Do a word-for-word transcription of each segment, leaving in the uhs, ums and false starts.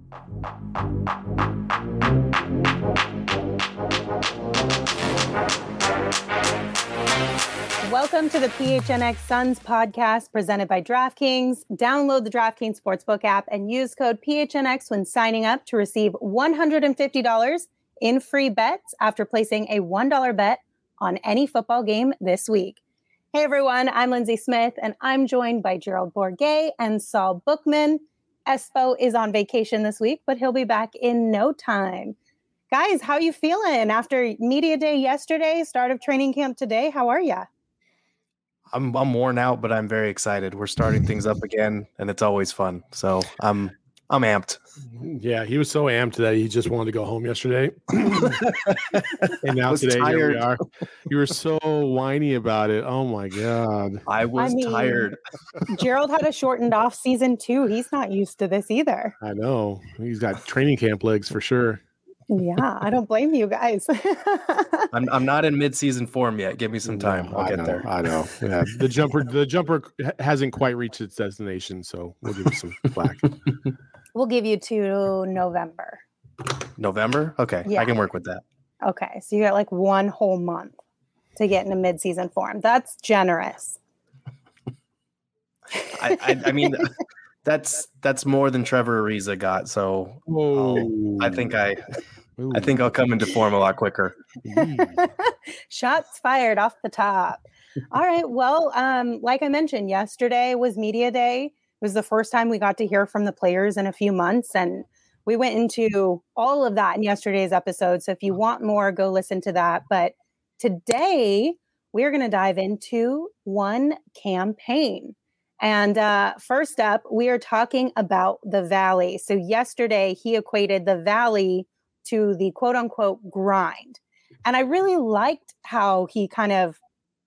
Welcome to the P H N X Suns podcast presented by DraftKings. Download the DraftKings Sportsbook app and use code P H N X when signing up to receive one hundred fifty dollars in free bets after placing a one dollar bet on any football game this week. Hey everyone, I'm Lindsay Smith and I'm joined by Gerald Bourguet and Saul Bookman. Espo is on vacation this week, but he'll be back in no time. Guys, how you feeling after media day yesterday, start of training camp today? How are ya? I'm I'm worn out, but I'm very excited. We're starting things up again, and it's always fun. So I'm I'm amped. Yeah, he was so amped that he just wanted to go home yesterday. And now today tired. Here we are. You were so whiny about it. Oh my God. I was I mean, tired. Gerald had a shortened off season too. He's not used to this either. I know. He's got training camp legs for sure. Yeah, I don't blame you guys. I'm I'm not in mid-season form yet. Give me some time. No, I'll I get know, there. I know. Yeah, the jumper the jumper hasn't quite reached its destination, so we'll give you some slack. We'll give you to November. November? Okay, Yeah. I can work with that. Okay, so you got like one whole month to get into mid-season form. That's generous. I I, I mean that's that's more than Trevor Ariza got. So Whoa. I think I Ooh. I think I'll come into form a lot quicker. Shots fired off the top. All right. Well, um, like I mentioned, yesterday was media day. It was the first time we got to hear from the players in a few months. And we went into all of that in yesterday's episode. So if you want more, go listen to that. But today we're going to dive into one campaign. And uh, first up, we are talking about the Valley. So yesterday he equated the Valley to the quote unquote grind. And I really liked how he kind of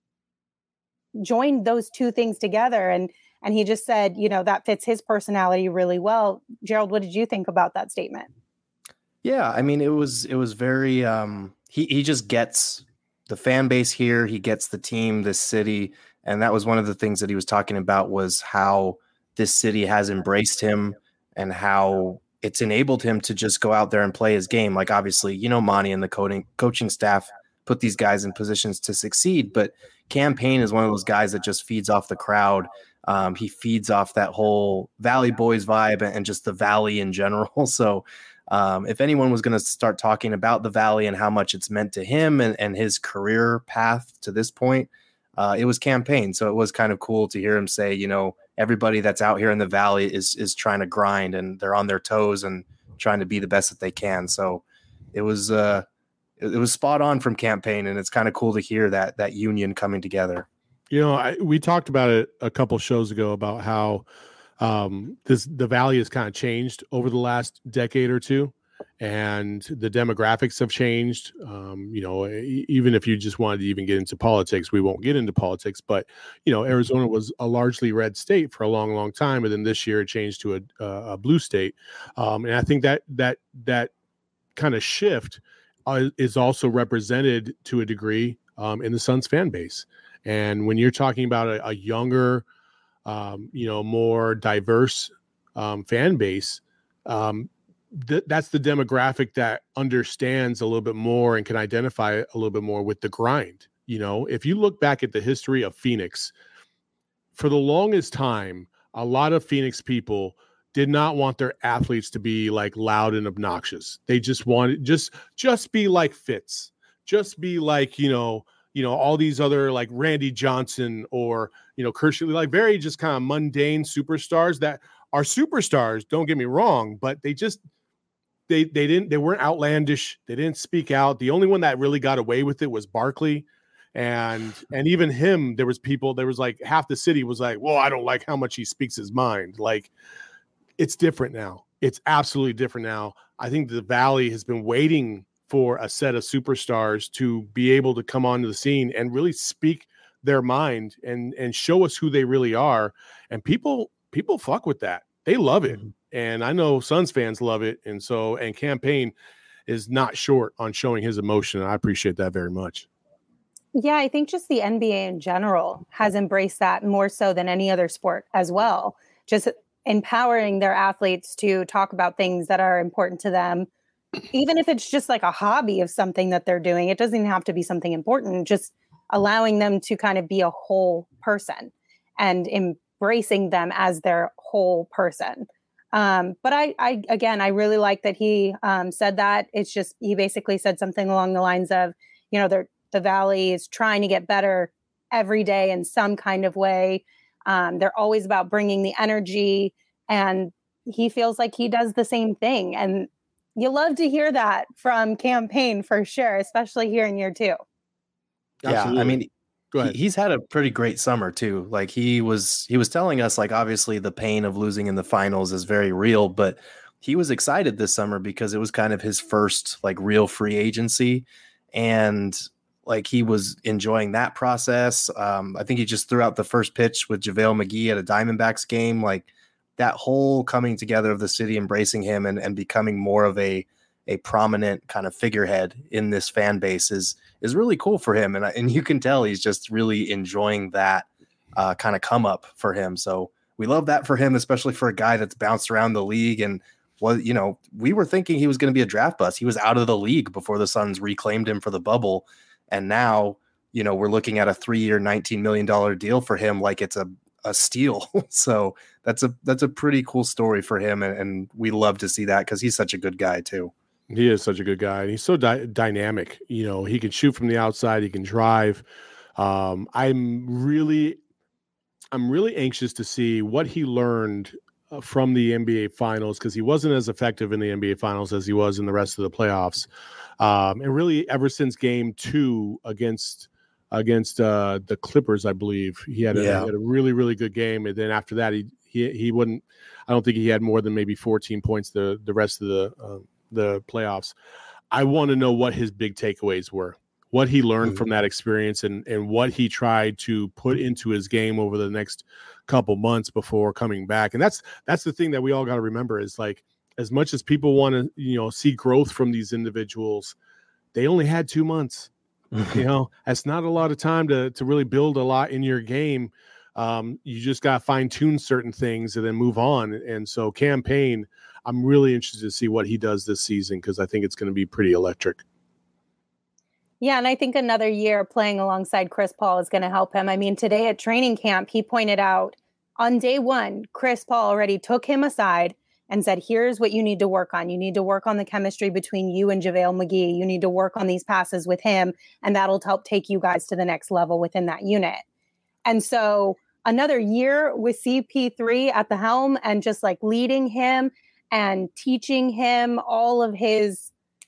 joined those two things together. And, and he just said, you know, that fits his personality really well. Gerald, what did you think about that statement? Yeah, I mean, it was it was very um he he just gets the fan base here, he gets the team, this city, and that was one of the things that he was talking about was how this city has embraced him and how it's enabled him to just go out there and play his game. Like obviously, you know, Monty and the coaching coaching staff put these guys in positions to succeed, but Cam Payne is one of those guys that just feeds off the crowd. Um, he feeds off that whole Valley Boys vibe and just the Valley in general. So um, if anyone was going to start talking about the Valley and how much it's meant to him and, and his career path to this point, uh, it was Cam Payne. So it was kind of cool to hear him say, you know, everybody that's out here in the Valley is is trying to grind and they're on their toes and trying to be the best that they can. So it was uh, it, it was spot on from Cam Payne, and it's kind of cool to hear that that union coming together. You know, I, we talked about it a couple shows ago about how um, this the Valley has kind of changed over the last decade or two, and the demographics have changed. Um, you know, e- even if you just wanted to even get into politics, we won't get into politics. But you know, Arizona was a largely red state for a long, long time, and then this year it changed to a, uh, a blue state. Um, and I think that that that kind of shift uh, is also represented to a degree um, in the Suns fan base. And when you're talking about a, a younger, um, you know, more diverse um, fan base, um, th- that's the demographic that understands a little bit more and can identify a little bit more with the grind. You know, if you look back at the history of Phoenix, for the longest time, a lot of Phoenix people did not want their athletes to be like loud and obnoxious. They just wanted just just be like Fitz, just be like, you know, you know, all these other like Randy Johnson or, you know, Kershaw, like very just kind of mundane superstars that are superstars. Don't get me wrong, but they just, they, they didn't, they weren't outlandish. They didn't speak out. The only one that really got away with it was Barkley. And, and even him, there was people, there was like half the city was like, well, I don't like how much he speaks his mind. Like it's different now. It's absolutely different now. I think the Valley has been waiting for a set of superstars to be able to come onto the scene and really speak their mind and and show us who they really are. And people people fuck with that. They love it. And I know Suns fans love it. And so, and Cam Payne is not short on showing his emotion. And I appreciate that very much. Yeah, I think just the N B A in general has embraced that more so than any other sport as well. Just empowering their athletes to talk about things that are important to them, even if it's just like a hobby of something that they're doing. It doesn't even have to be something important, just allowing them to kind of be a whole person and embracing them as their whole person. Um, but I, I, again, I really like that he um, said that. It's just, he basically said something along the lines of, you know, they're, the Valley is trying to get better every day in some kind of way. Um, they're always about bringing the energy, and he feels like he does the same thing. And you love to hear that from Cam Payne for sure, especially here in year two. Yeah, Absolutely. I mean, Go ahead. he, he's had a pretty great summer too. Like he was, he was telling us, like, obviously the pain of losing in the finals is very real, but he was excited this summer because it was kind of his first like real free agency, and like he was enjoying that process. Um, I think he just threw out the first pitch with JaVale McGee at a Diamondbacks game. Like that whole coming together of the city, embracing him and, and becoming more of a, a prominent kind of figurehead in this fan base is, is really cool for him. And, and you can tell he's just really enjoying that uh, kind of come up for him. So we love that for him, especially for a guy that's bounced around the league. And well, you know, we were thinking he was going to be a draft bust. He was out of the league before the Suns reclaimed him for the bubble. And now, you know, we're looking at a three-year, nineteen million dollars deal for him, like it's a, a steal. So that's a that's a pretty cool story for him, and, and we love to see that because he's such a good guy too. He is such a good guy, and he's so dy- dynamic. You know, he can shoot from the outside, he can drive. Um, I'm really, I'm really anxious to see what he learned uh, from the N B A Finals, because he wasn't as effective in the N B A Finals as he was in the rest of the playoffs. Um, and really, ever since Game Two against against uh, the Clippers, I believe he had, a, Yeah. he had a really really good game. And then after that, he he he wouldn't. I don't think he had more than maybe fourteen points the the rest of the uh, the playoffs. I want to know what his big takeaways were, what he learned mm-hmm. from that experience, and and what he tried to put into his game over the next couple months before coming back. And that's that's the thing that we all got to remember is, like, as much as people want to, you know, see growth from these individuals, they only had two months. You know, that's not a lot of time to to really build a lot in your game. Um, you just got to fine tune certain things and then move on. And so Cam Payne, I'm really interested to see what he does this season, because I think it's going to be pretty electric. Yeah, and I think another year playing alongside Chris Paul is going to help him. I mean, today at training camp, he pointed out on day one, Chris Paul already took him aside and said, here's what you need to work on. You need to work on the chemistry between you and JaVale McGee. You need to work on these passes with him, and that'll help take you guys to the next level within that unit. And so another year with C P three at the helm and just like leading him and teaching him all of his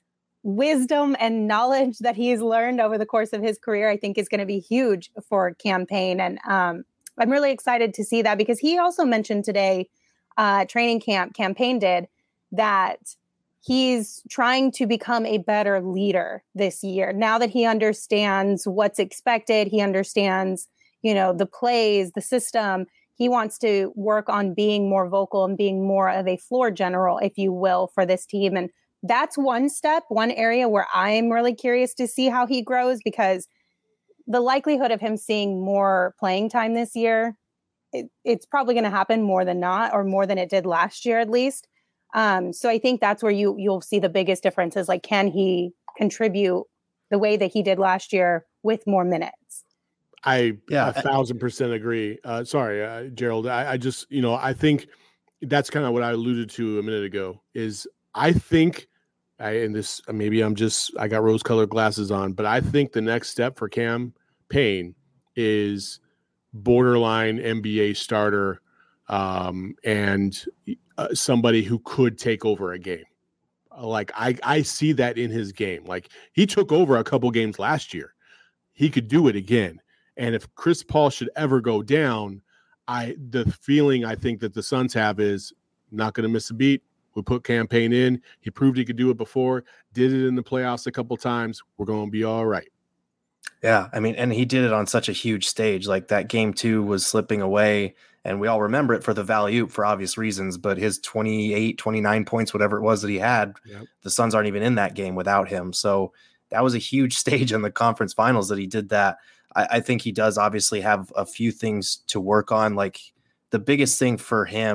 wisdom and knowledge that he's learned over the course of his career, I think is going to be huge for Cam Payne. And um, I'm really excited to see that, because he also mentioned today, uh, training camp, Cam Payne did, that he's trying to become a better leader this year. Now that he understands what's expected, he understands, you know, the plays, the system, he wants to work on being more vocal and being more of a floor general, if you will, for this team. And that's one step, one area where I'm really curious to see how he grows, because the likelihood of him seeing more playing time this year, it, it's probably going to happen more than not, or more than it did last year, at least. Um, so I think that's where you, you'll see the biggest difference is, like, can he contribute the way that he did last year with more minutes? I yeah, a thousand percent agree. Uh, sorry, uh, Gerald. I, I just, you know, I think that's kind of what I alluded to a minute ago is I think, I, and this, maybe I'm just, I got rose colored glasses on, but I think the next step for Cam Payne is borderline N B A starter, um, and uh, somebody who could take over a game. Like I, I see that in his game. Like he took over a couple games last year. He could do it again. And if Chris Paul should ever go down, I the feeling I think that the Suns have is not going to miss a beat. We put Cam Payne in. He proved he could do it before, did it in the playoffs a couple times. We're going to be all right. Yeah, I mean, and he did it on such a huge stage. Like that game two was slipping away, and we all remember it for the value for obvious reasons, but his twenty-eight, twenty-nine points, whatever it was that he had, yep. The Suns aren't even in that game without him. So that was a huge stage in the conference finals that he did that. I, I think he does obviously have a few things to work on. Like the biggest thing for him,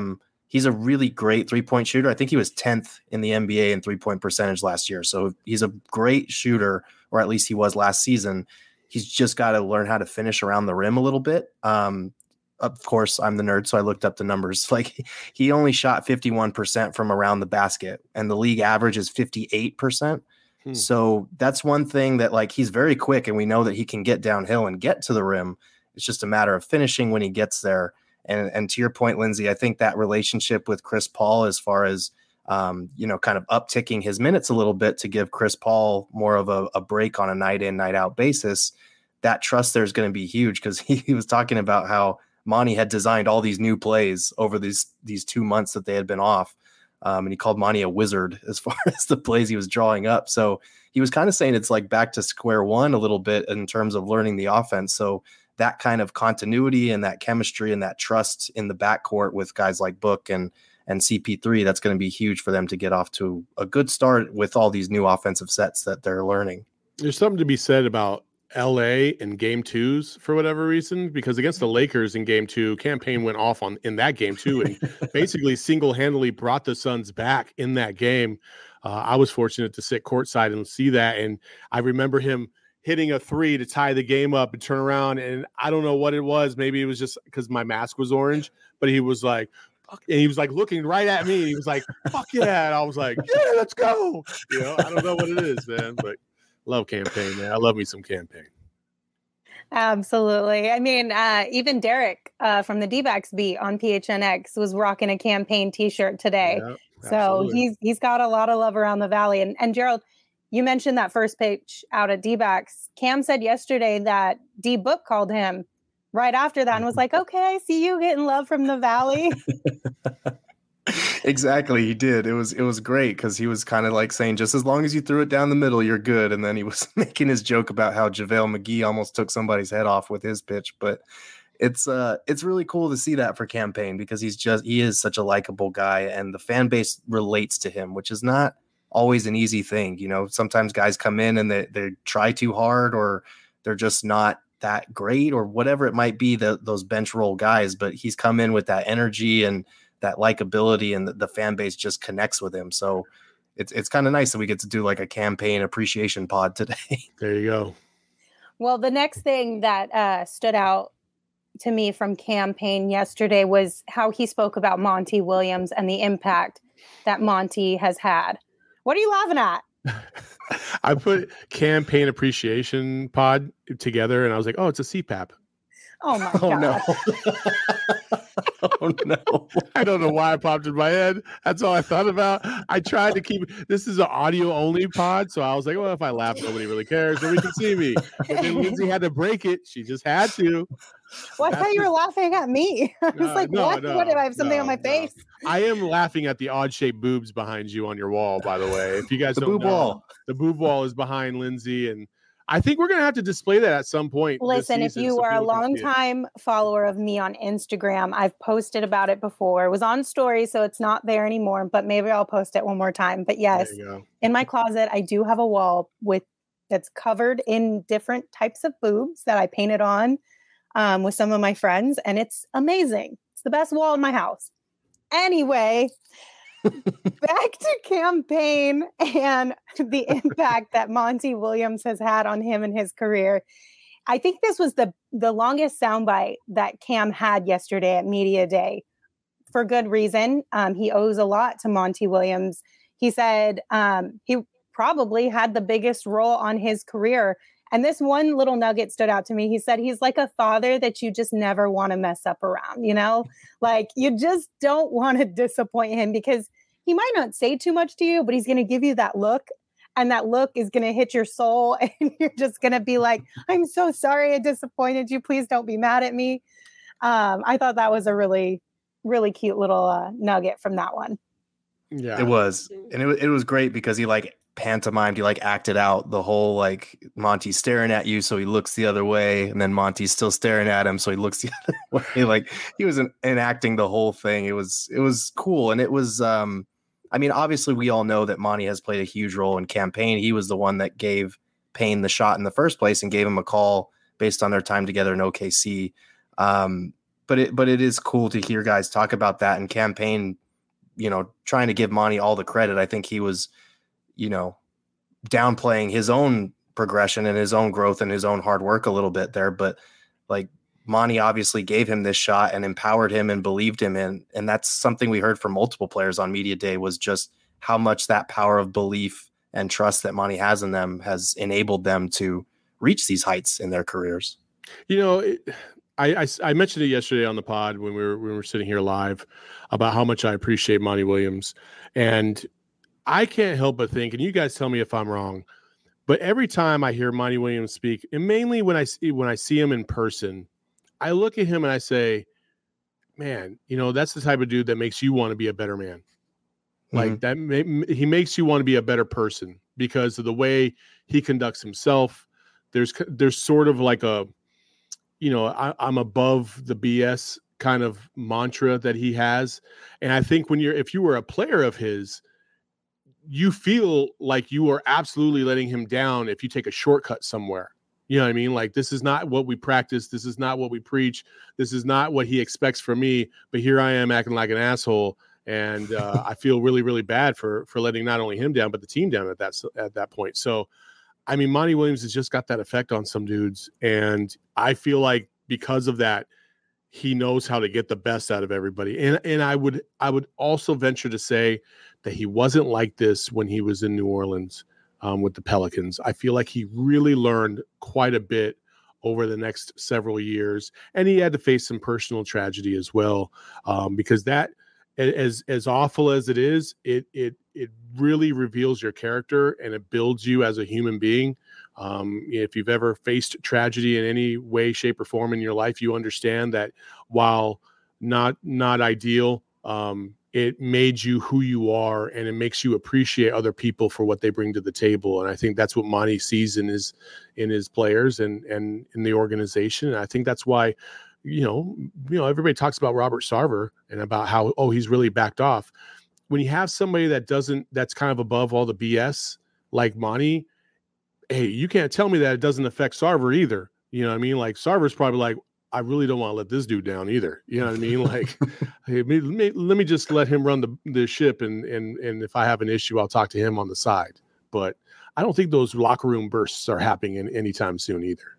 he's a really great three-point shooter. I think he was tenth in the N B A in three-point percentage last year. So he's a great shooter, or at least he was last season. He's just got to learn how to finish around the rim a little bit. Um, of course, I'm the nerd, so I looked up the numbers. Like, he only shot fifty-one percent from around the basket, and the league average is fifty-eight percent. Hmm. So that's one thing that, like, he's very quick, and we know that he can get downhill and get to the rim. It's just a matter of finishing when he gets there. And and to your point, Lindsay, I think that relationship with Chris Paul, as far as, um, you know, kind of upticking his minutes a little bit to give Chris Paul more of a, a break on a night in, night out basis, that trust there is going to be huge, because he, he was talking about how Monty had designed all these new plays over these these two months that they had been off. Um, and he called Monty a wizard as far as the plays he was drawing up. So he was kind of saying it's like back to square one a little bit in terms of learning the offense. So that kind of continuity and that chemistry and that trust in the backcourt with guys like Book and and C P three, that's going to be huge for them to get off to a good start with all these new offensive sets that they're learning. There's something to be said about L A in game twos for whatever reason, because against the Lakers in game two, Cam Payne went off on in that game too, and basically single-handedly brought the Suns back in that game. Uh, I was fortunate to sit courtside and see that, and I remember him hitting a three to tie the game up and turn around, and I don't know what it was. Maybe it was just because my mask was orange, but he was like, fuck, and he was like looking right at me. He was like, fuck yeah. And I was like, yeah, let's go. You know, I don't know what it is, man, but love Cam Payne, man. I love me some Cam Payne. Absolutely. I mean, uh, even Derek uh, from the D-backs beat on P H N X was rocking a Cam Payne t-shirt today. Yep, so he's he's got a lot of love around the Valley. And, and Gerald, you mentioned that first pitch out at D-backs. Cam said yesterday that D-Book called him right after that and was like, okay, I see you getting love from the Valley. Exactly, he did. It was it was great, because he was kind of like saying, just as long as you threw it down the middle, you're good. And then he was making his joke about how JaVale McGee almost took somebody's head off with his pitch. But it's uh it's really cool to see that for Cam Payne, because he's just he is such a likable guy, and the fan base relates to him, which is not always an easy thing. You know, sometimes guys come in and they they try too hard, or they're just not that great, or whatever it might be, the, those bench role guys. But he's come in with that energy and that likability, and the, the fan base just connects with him. So it's it's kind of nice that we get to do like a Cam Payne appreciation pod today. There you go. Well, the next thing that uh, stood out to me from Cam Payne yesterday was how he spoke about Monty Williams and the impact that Monty has had. What are you laughing at? I put Cam Payne appreciation pod together, and I was like, oh, it's a C PAP. Oh my oh, god! No. Oh no! I don't know why it popped in my head. That's all I thought about. I tried to keep this is an audio only pod, so I was like, well, if I laugh, nobody really cares. Nobody can see me. But then Lindsay had to break it. She just had to. Well, I That's thought you were the... laughing at me. I was uh, like, no, what? No, what? If I have something no, on my no. face? I am laughing at the odd shaped boobs behind you on your wall, by the way. If you guys the don't boob know, wall. The boob wall is behind Lindsay, and I think we're going to have to display that at some point. Listen, if you so are a longtime follower of me on Instagram, I've posted about it before. It was on story, so it's not there anymore, but maybe I'll post it one more time. But yes, in my closet, I do have a wall with that's covered in different types of boobs that I painted on um, with some of my friends, and it's amazing. It's the best wall in my house. Anyway, back to Cam Payne and the impact that Monty Williams has had on him in his career. I think this was the, the longest soundbite that Cam had yesterday at Media Day, for good reason. Um, he owes a lot to Monty Williams. He said um, he probably had the biggest role on his career. And this one little nugget stood out to me. He said he's like a father that you just never want to mess up around, you know, like you just don't want to disappoint him, because he might not say too much to you, but he's going to give you that look, and that look is going to hit your soul. And you're just going to be like, I'm so sorry I disappointed you. Please don't be mad at me. Um, I thought that was a really, really cute little uh, nugget from that one. Yeah, it was. And it, it was great because he like pantomimed, he like acted out the whole like Monty's staring at you, so he looks the other way, and then Monty's still staring at him, so he looks the other way. Like he was en- enacting the whole thing. It was it was cool, and it was um I mean, obviously we all know that Monty has played a huge role in Cam Payne. He was the one that gave Payne the shot in the first place and gave him a call based on their time together in O K C. Um, but it but it is cool to hear guys talk about that, and Cam Payne you know, trying to give Monty all the credit. I think he was, you know, downplaying his own progression and his own growth and his own hard work a little bit there. But like Monty obviously gave him this shot and empowered him and believed him in. And that's something we heard from multiple players on media day, was just how much that power of belief and trust that Monty has in them has enabled them to reach these heights in their careers. You know, it, I, I, I mentioned it yesterday on the pod when we were when we were sitting here live about how much I appreciate Monty Williams. And I can't help but think, and you guys tell me if I'm wrong, but every time I hear Monty Williams speak, and mainly when I see when I see him in person, I look at him and I say, man, you know, that's the type of dude that makes you want to be a better man. Like mm-hmm. that, he makes you want to be a better person because of the way he conducts himself. There's, there's sort of like a, you know, I, I'm above the B S kind of mantra that he has. And I think when you're, if you were a player of his, you feel like you are absolutely letting him down if you take a shortcut somewhere. You know what I mean? Like, this is not what we practice. This is not what we preach. This is not what he expects from me. But here I am acting like an asshole. And uh, I feel really, really bad for for letting not only him down, but the team down at that at that point. So, I mean, Monty Williams has just got that effect on some dudes. And I feel like because of that, he knows how to get the best out of everybody. And and I would I would also venture to say that he wasn't like this when he was in New Orleans um, with the Pelicans. I feel like he really learned quite a bit over the next several years. And he had to face some personal tragedy as well, um, because that, as as awful as it is, it it it really reveals your character and it builds you as a human being. Um, if you've ever faced tragedy in any way, shape, or form in your life, you understand that while not not ideal, um, it made you who you are, and it makes you appreciate other people for what they bring to the table. And I think that's what Monty sees in his in his players and and in the organization. And I think that's why, you know, you know, everybody talks about Robert Sarver and about how, oh, he's really backed off. When you have somebody that doesn't, that's kind of above all the B S like Monty, hey, you can't tell me that it doesn't affect Sarver either. You know what I mean? Like, Sarver's probably like, I really don't want to let this dude down either. You know what I mean? Like, hey, let, me, let me just let him run the, the ship. And, and, and if I have an issue, I'll talk to him on the side. But I don't think those locker room bursts are happening in, anytime soon either.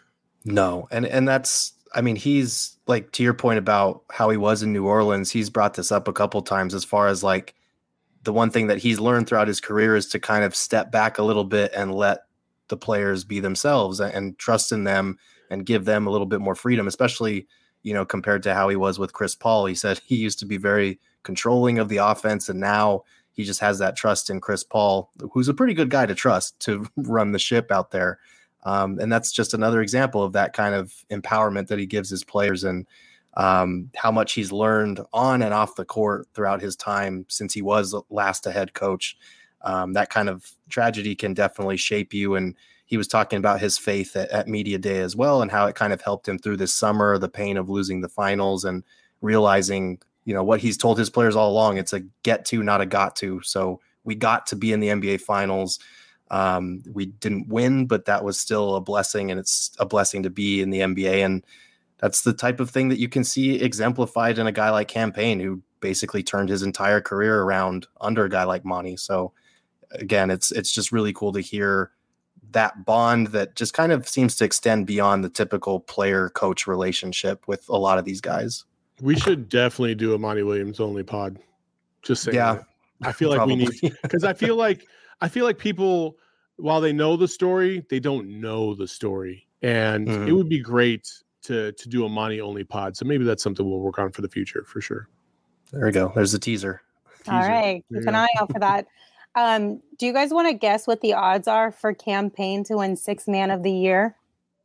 No. And, and that's, I mean, he's like, to your point about how he was in New Orleans, he's brought this up a couple times as far as like the one thing that he's learned throughout his career is to kind of step back a little bit and let the players be themselves and trust in them and give them a little bit more freedom, especially, you know, compared to how he was with Chris Paul. He said he used to be very controlling of the offense, and now he just has that trust in Chris Paul, who's a pretty good guy to trust to run the ship out there. Um, and that's just another example of that kind of empowerment that he gives his players, and um, how much he's learned on and off the court throughout his time since he was last a head coach. Um, that kind of tragedy can definitely shape you. And he was talking about his faith at, at media day as well, and how it kind of helped him through this summer, the pain of losing the finals and realizing, you know, what he's told his players all along. It's a get to, not a got to. So we got to be in the N B A finals. Um, we didn't win, but that was still a blessing, and it's a blessing to be in the N B A. And that's the type of thing that you can see exemplified in a guy like Cam Payne, who basically turned his entire career around under a guy like Monty. So again, it's, it's just really cool to hear that bond that just kind of seems to extend beyond the typical player coach relationship with a lot of these guys. We should definitely do a Monty Williams only pod. Just saying. Yeah, that. I feel like we need, because I feel like, I feel like people, while they know the story, they don't know the story. And mm-hmm. it would be great to, to do a Monty only pod. So maybe that's something we'll work on for the future for sure. There we go. There's the teaser. All teaser. right. Keep an eye out for that. Um, do you guys want to guess what the odds are for Cam Payne to win Sixth Man of the Year?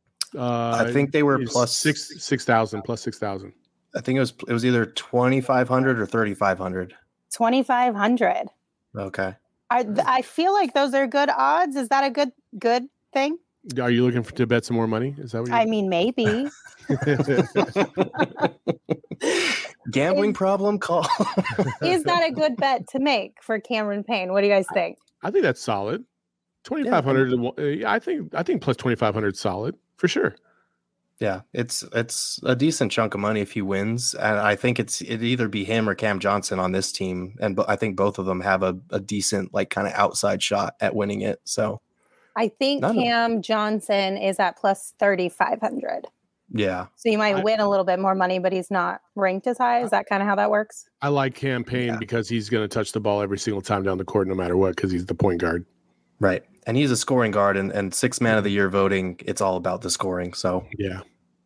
Uh, I think they were plus six six thousand plus six thousand. I think it was it was either twenty five hundred or thirty five hundred. Twenty five hundred. Okay. I I feel like those are good odds. Is that a good good thing? Are you looking for to bet some more money? Is that what? I mean, maybe. Gambling is, problem call. Is that a good bet to make for Cameron Payne? What do you guys think? I think that's solid. twenty-five hundred. Yeah. I think I think plus twenty-five hundred is solid for sure. Yeah, it's it's a decent chunk of money if he wins, and I think it's it either be him or Cam Johnson on this team, and bo- I think both of them have a, a decent like kind of outside shot at winning it. So I think none of- Cam Johnson is at plus thirty-five hundred. yeah, So you might I- win a little bit more money, but he's not ranked as high. Is that kind of how that works? I like campaign Yeah. because he's going to touch the ball every single time down the court, no matter what, because he's the point guard. right. And he's a scoring guard, and and six man of the year voting, it's all about the scoring. So Yeah.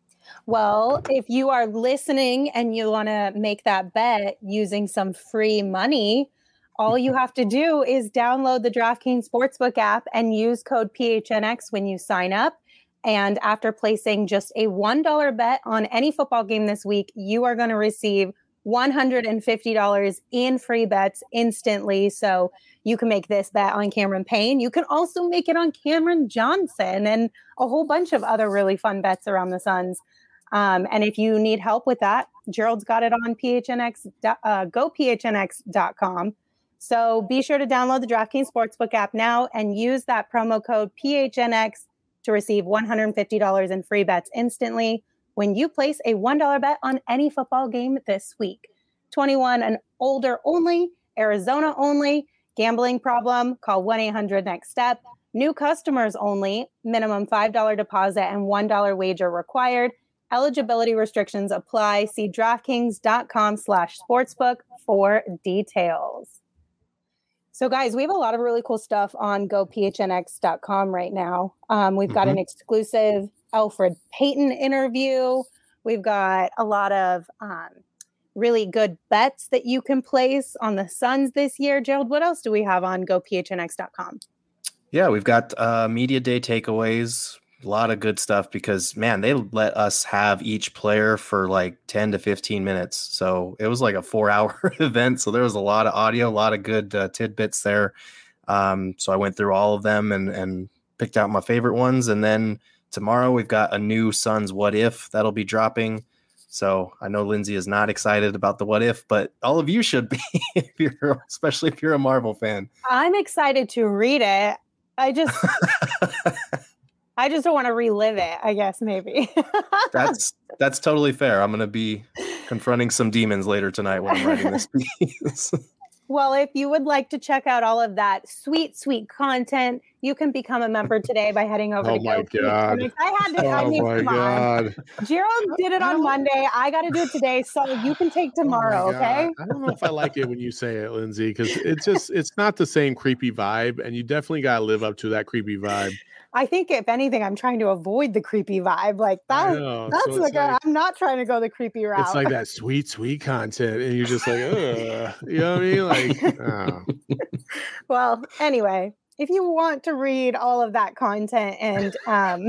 Well, if you are listening and you want to make that bet using some free money, all you have to do is download the DraftKings Sportsbook app and use code P H N X when you sign up. And after placing just a one dollar bet on any football game this week, you are going to receive one hundred fifty dollars in free bets instantly. So you can make this bet on Cameron Payne. You can also make it on Cameron Johnson and a whole bunch of other really fun bets around the Suns. Um, and if you need help with that, Gerald's got it on P H N X, uh, go P H N X dot com. So be sure to download the DraftKings Sportsbook app now and use that promo code P H N X to receive one hundred fifty dollars in free bets instantly when you place a one dollar bet on any football game this week. twenty-one and older only, Arizona only. Gambling problem? Call one eight hundred next step. New customers only. Minimum five dollars deposit and one dollar wager required. Eligibility restrictions apply. See DraftKings.com slash sportsbook for details. So, guys, we have a lot of really cool stuff on go P H N X dot com right now. Um, we've got Mhm. an exclusive Elfrid Payton interview. We've got a lot of um, really good bets that you can place on the Suns this year. Gerald, what else do we have on go P H N X dot com? yeah, we've got uh, media day takeaways. A lot of good stuff because, man, they let us have each player for like ten to fifteen minutes. So it was like a four hour event. So there was a lot of audio, a lot of good uh, tidbits there. Um, so I went through all of them and, and picked out my favorite ones. And then tomorrow we've got a new Suns What If that'll be dropping. So I know Lindsay is not excited about the What If, but all of you should be, if you're, especially if you're a Marvel fan. I'm excited to read it. I just... I just don't want to relive it, I guess, maybe. that's that's totally fair. I'm going to be confronting some demons later tonight when I'm writing this piece. Well, if you would like to check out all of that sweet, sweet content, you can become a member today by heading over Oh to my Go. God. I had to. I Oh mean, my come on. God. Gerald did it on Monday. I got to do it today, so you can take tomorrow. Oh my Okay. God. I don't know if I like it when you say it, Lindsay, because it's just it's not the same creepy vibe, and you definitely got to live up to that creepy vibe. I think if anything, I'm trying to avoid the creepy vibe. Like I that. know. That's So it's like, a, like- I'm not trying to go the creepy route. It's like that sweet, sweet content, and you're just like, ugh. You know what I mean? Like, oh. Well, anyway, if you want to read all of that content and um,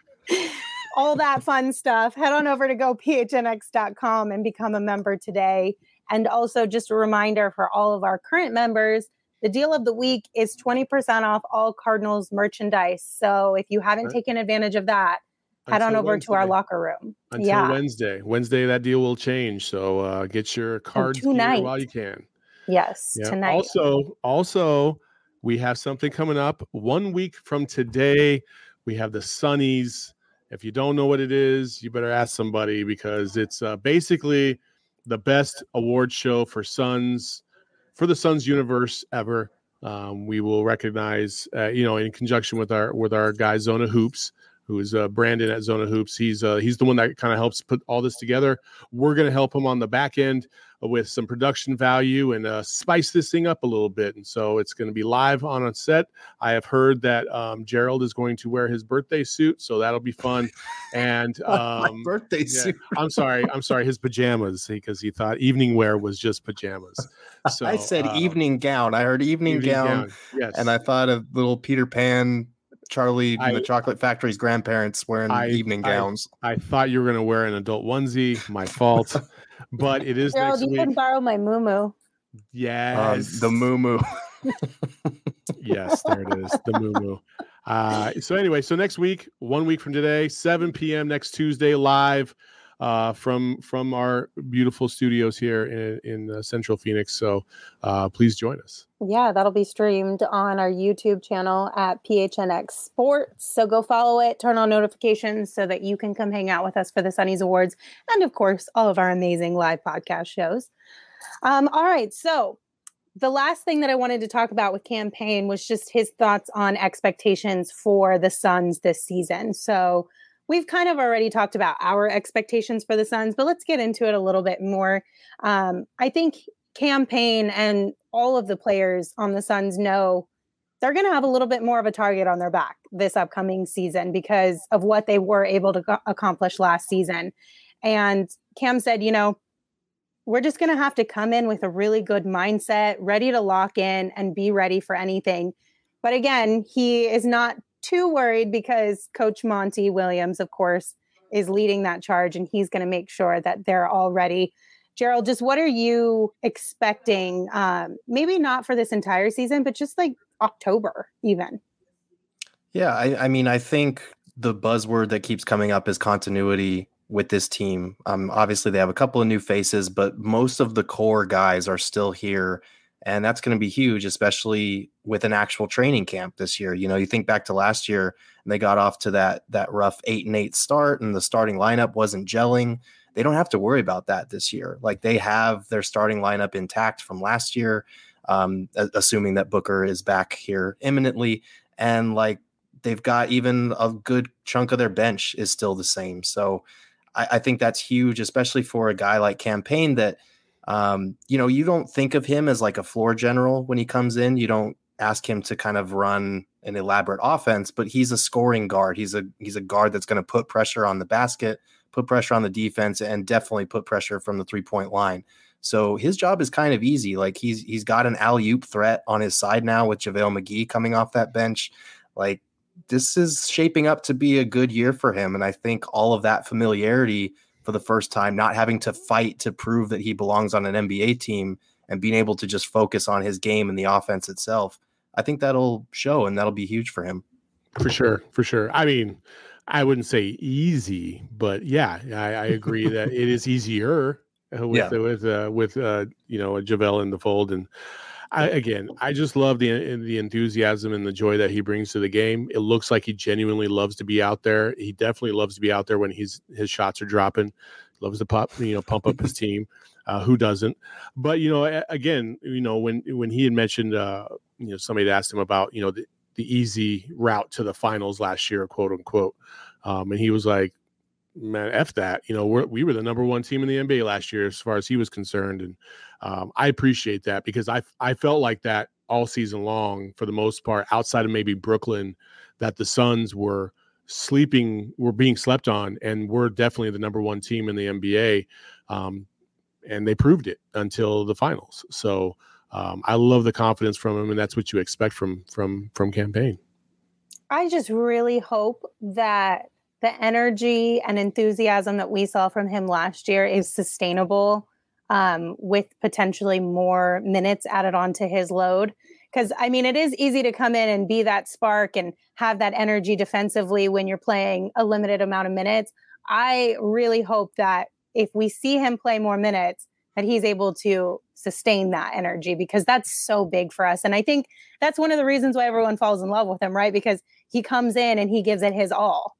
all that fun stuff, head on over to go P H N X dot com and become a member today. And also just a reminder for all of our current members, the deal of the week is twenty percent off all Cardinals merchandise. So if you haven't Right. taken advantage of that, head on Until over to our Wednesday. locker room. Until yeah. Wednesday. Wednesday, that deal will change. So uh, get your cards here tonight. while you can. Yes, Yeah. tonight. Also, also, we have something coming up one week from today. We have the Sunnies. If you don't know what it is, you better ask somebody because it's uh, basically the best award show for Suns, for the Suns universe ever. Um, we will recognize, uh, you know, in conjunction with our with our guy Zona Hoops, who is uh, Brandon at Zona Hoops. He's uh, he's the one that kind of helps put all this together. We're going to help him on the back end with some production value and uh, spice this thing up a little bit. And so it's going to be live on a set. I have heard that um, Gerald is going to wear his birthday suit, so that'll be fun. And um, My birthday yeah, suit. I'm sorry, I'm sorry, his pajamas, because he thought evening wear was just pajamas. So I said uh, evening gown. I heard evening, evening gown, gown. Yes, and I thought of little Peter Pan, Charlie I- and the Chocolate Factory's grandparents wearing I- evening I- gowns. I thought you were going to wear an adult onesie. My fault. But it is Gerald, next you week. can borrow my moo Um, Yes. the moo moo. Yes, there it is. The moo moo. Uh, so anyway, so next week, one week from today, seven p.m. next Tuesday, live. uh, from from our beautiful studios here in, in uh, Central Phoenix. So uh, please join us. Yeah, that'll be streamed on our YouTube channel at P H N X Sports. So go follow it, turn on notifications so that you can come hang out with us for the Sonny's Awards. And of course, all of our amazing live podcast shows. Um, all right. So the last thing that I wanted to talk about with Cam Payne was just his thoughts on expectations for the Suns this season. So we've kind of already talked about our expectations for the Suns, but let's get into it a little bit more. Um, I think Cam Payne and all of the players on the Suns know they're going to have a little bit more of a target on their back this upcoming season because of what they were able to go- accomplish last season. And Cam said, you know, we're just going to have to come in with a really good mindset, ready to lock in and be ready for anything. But again, he is not too worried because Coach Monty Williams, of course, is leading that charge, and he's going to make sure that they're all ready. Gerald, just what are you expecting? Um, maybe not for this entire season, but just like October even. Yeah, I, I mean, I think the buzzword that keeps coming up is continuity with this team. Um, obviously, they have a couple of new faces, but most of the core guys are still here. And that's going to be huge, especially with an actual training camp this year. You know, you think back to last year and they got off to that that rough eight and eight start and the starting lineup wasn't gelling. They don't have to worry about that this year. Like they have their starting lineup intact from last year, um, assuming that Booker is back here imminently. And like they've got even a good chunk of their bench is still the same. So I, I think that's huge, especially for a guy like Cam Payne that, um, you know, you don't think of him as like a floor general when he comes in. You don't ask him to kind of run an elaborate offense, but he's a scoring guard. He's a he's a guard that's going to put pressure on the basket, put pressure on the defense, and definitely put pressure from the three-point line. So his job is kind of easy. Like he's he's got an alley-oop threat on his side now with JaVale McGee coming off that bench. Like this is shaping up to be a good year for him. And I think all of that familiarity for the first time, not having to fight to prove that he belongs on an N B A team and being able to just focus on his game and the offense itself, I think that'll show and that'll be huge for him. For sure. For sure. I mean, I wouldn't say easy, but yeah, I, I agree that it is easier with, yeah. with, uh, with, uh, you know, a JaVale in the fold. And I, again, I just love the the enthusiasm and the joy that he brings to the game. It looks like he genuinely loves to be out there. He definitely loves to be out there when he's his shots are dropping. Loves to pop, you know, pump up his team. Uh, who doesn't? But you know, again, you know, when when he had mentioned, uh, you know, somebody had asked him about, you know, the, the easy route to the finals last year, quote unquote, um, and he was like, man, F that. You know, we're, we were the number one team in the N B A last year as far as he was concerned. And um, I appreciate that because I I felt like that all season long for the most part, outside of maybe Brooklyn, that the Suns were sleeping, were being slept on, and we're definitely the number one team in the N B A. Um, and they proved it until the finals. So um, I love the confidence from him, and that's what you expect from from from Cam Payne. I just really hope that the energy and enthusiasm that we saw from him last year is sustainable um, with potentially more minutes added onto his load. Because, I mean, it is easy to come in and be that spark and have that energy defensively when you're playing a limited amount of minutes. I really hope that if we see him play more minutes, that he's able to sustain that energy because that's so big for us. And I think that's one of the reasons why everyone falls in love with him, right? Because he comes in and he gives it his all.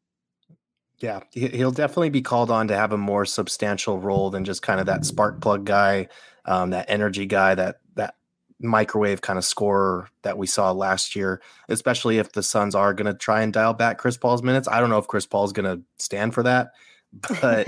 Yeah, he'll definitely be called on to have a more substantial role than just kind of that spark plug guy, um, that energy guy, that that microwave kind of scorer that we saw last year, especially if the Suns are going to try and dial back Chris Paul's minutes. I don't know if Chris Paul's going to stand for that, but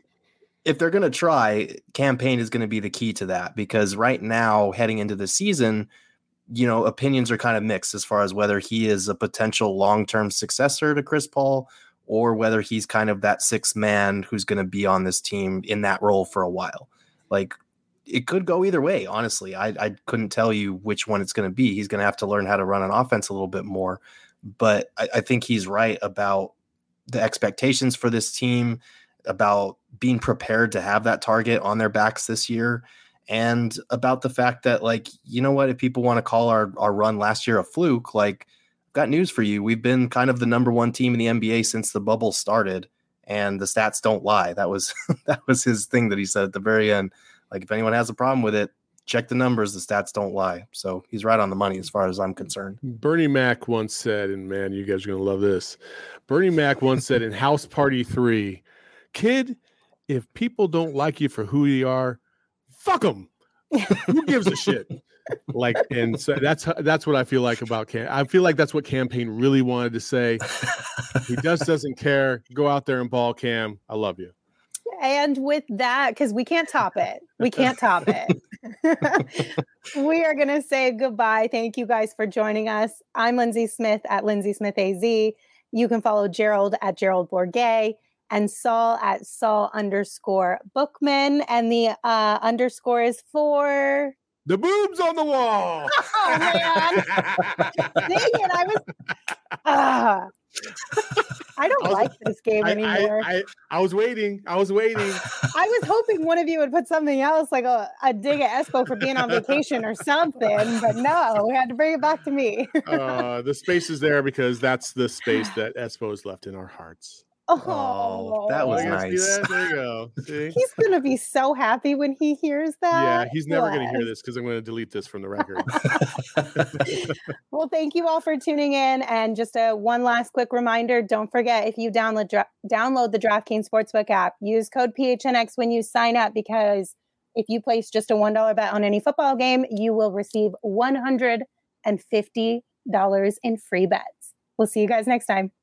if they're going to try, Cam Payne is going to be the key to that because right now, heading into the season, you know, opinions are kind of mixed as far as whether he is a potential long-term successor to Chris Paul or whether he's kind of that sixth man who's going to be on this team in that role for a while. Like, it could go either way, honestly. I, I couldn't tell you which one it's going to be. He's going to have to learn how to run an offense a little bit more. But I, I think he's right about the expectations for this team, about being prepared to have that target on their backs this year, and about the fact that, like, you know what, if people want to call our, our run last year a fluke, like, got news for you. We've been kind of the number one team in the N B A since the bubble started, and the stats don't lie. That was that was his thing that he said at the very end. Like, if anyone has a problem with it, check the numbers. The stats don't lie. So he's right on the money as far as I'm concerned. Bernie Mac once said, and man, you guys are going to love this. Bernie Mac once said in House Party three, kid, if people don't like you for who you are, fuck them. Who gives a shit? Like, and so that's that's what I feel like about Cam. I feel like that's what Campaign really wanted to say. He just doesn't care. Go out there and ball, Cam. I love you. And with that, because we can't top it, we can't top it. We are going to say goodbye. Thank you guys for joining us. I'm Lindsay Smith at Lindsay Smith A Z. You can follow Gerald at Gerald Bourget and Saul at Saul underscore Bookman. And the uh, underscore is for the boobs on the wall. Oh, man. Dang it. I was. Uh, I don't I was, like this game I, anymore. I, I, I was waiting. I was waiting. I was hoping one of you would put something else, like a, a dig at Espo for being on vacation or something, but no, we had to bring it back to me. uh, the space is there because that's the space that Espo has left in our hearts. Oh, oh that was nice. That? There you go. See? He's going to be so happy when he hears that. Yeah, he's never going to hear this because I'm going to delete this from the record. Well, thank you all for tuning in. And just a one last quick reminder, don't forget, if you download dra- download the DraftKings Sportsbook app, use code P H N X when you sign up, because if you place just a one dollar bet on any football game, you will receive one hundred fifty dollars in free bets. We'll see you guys next time.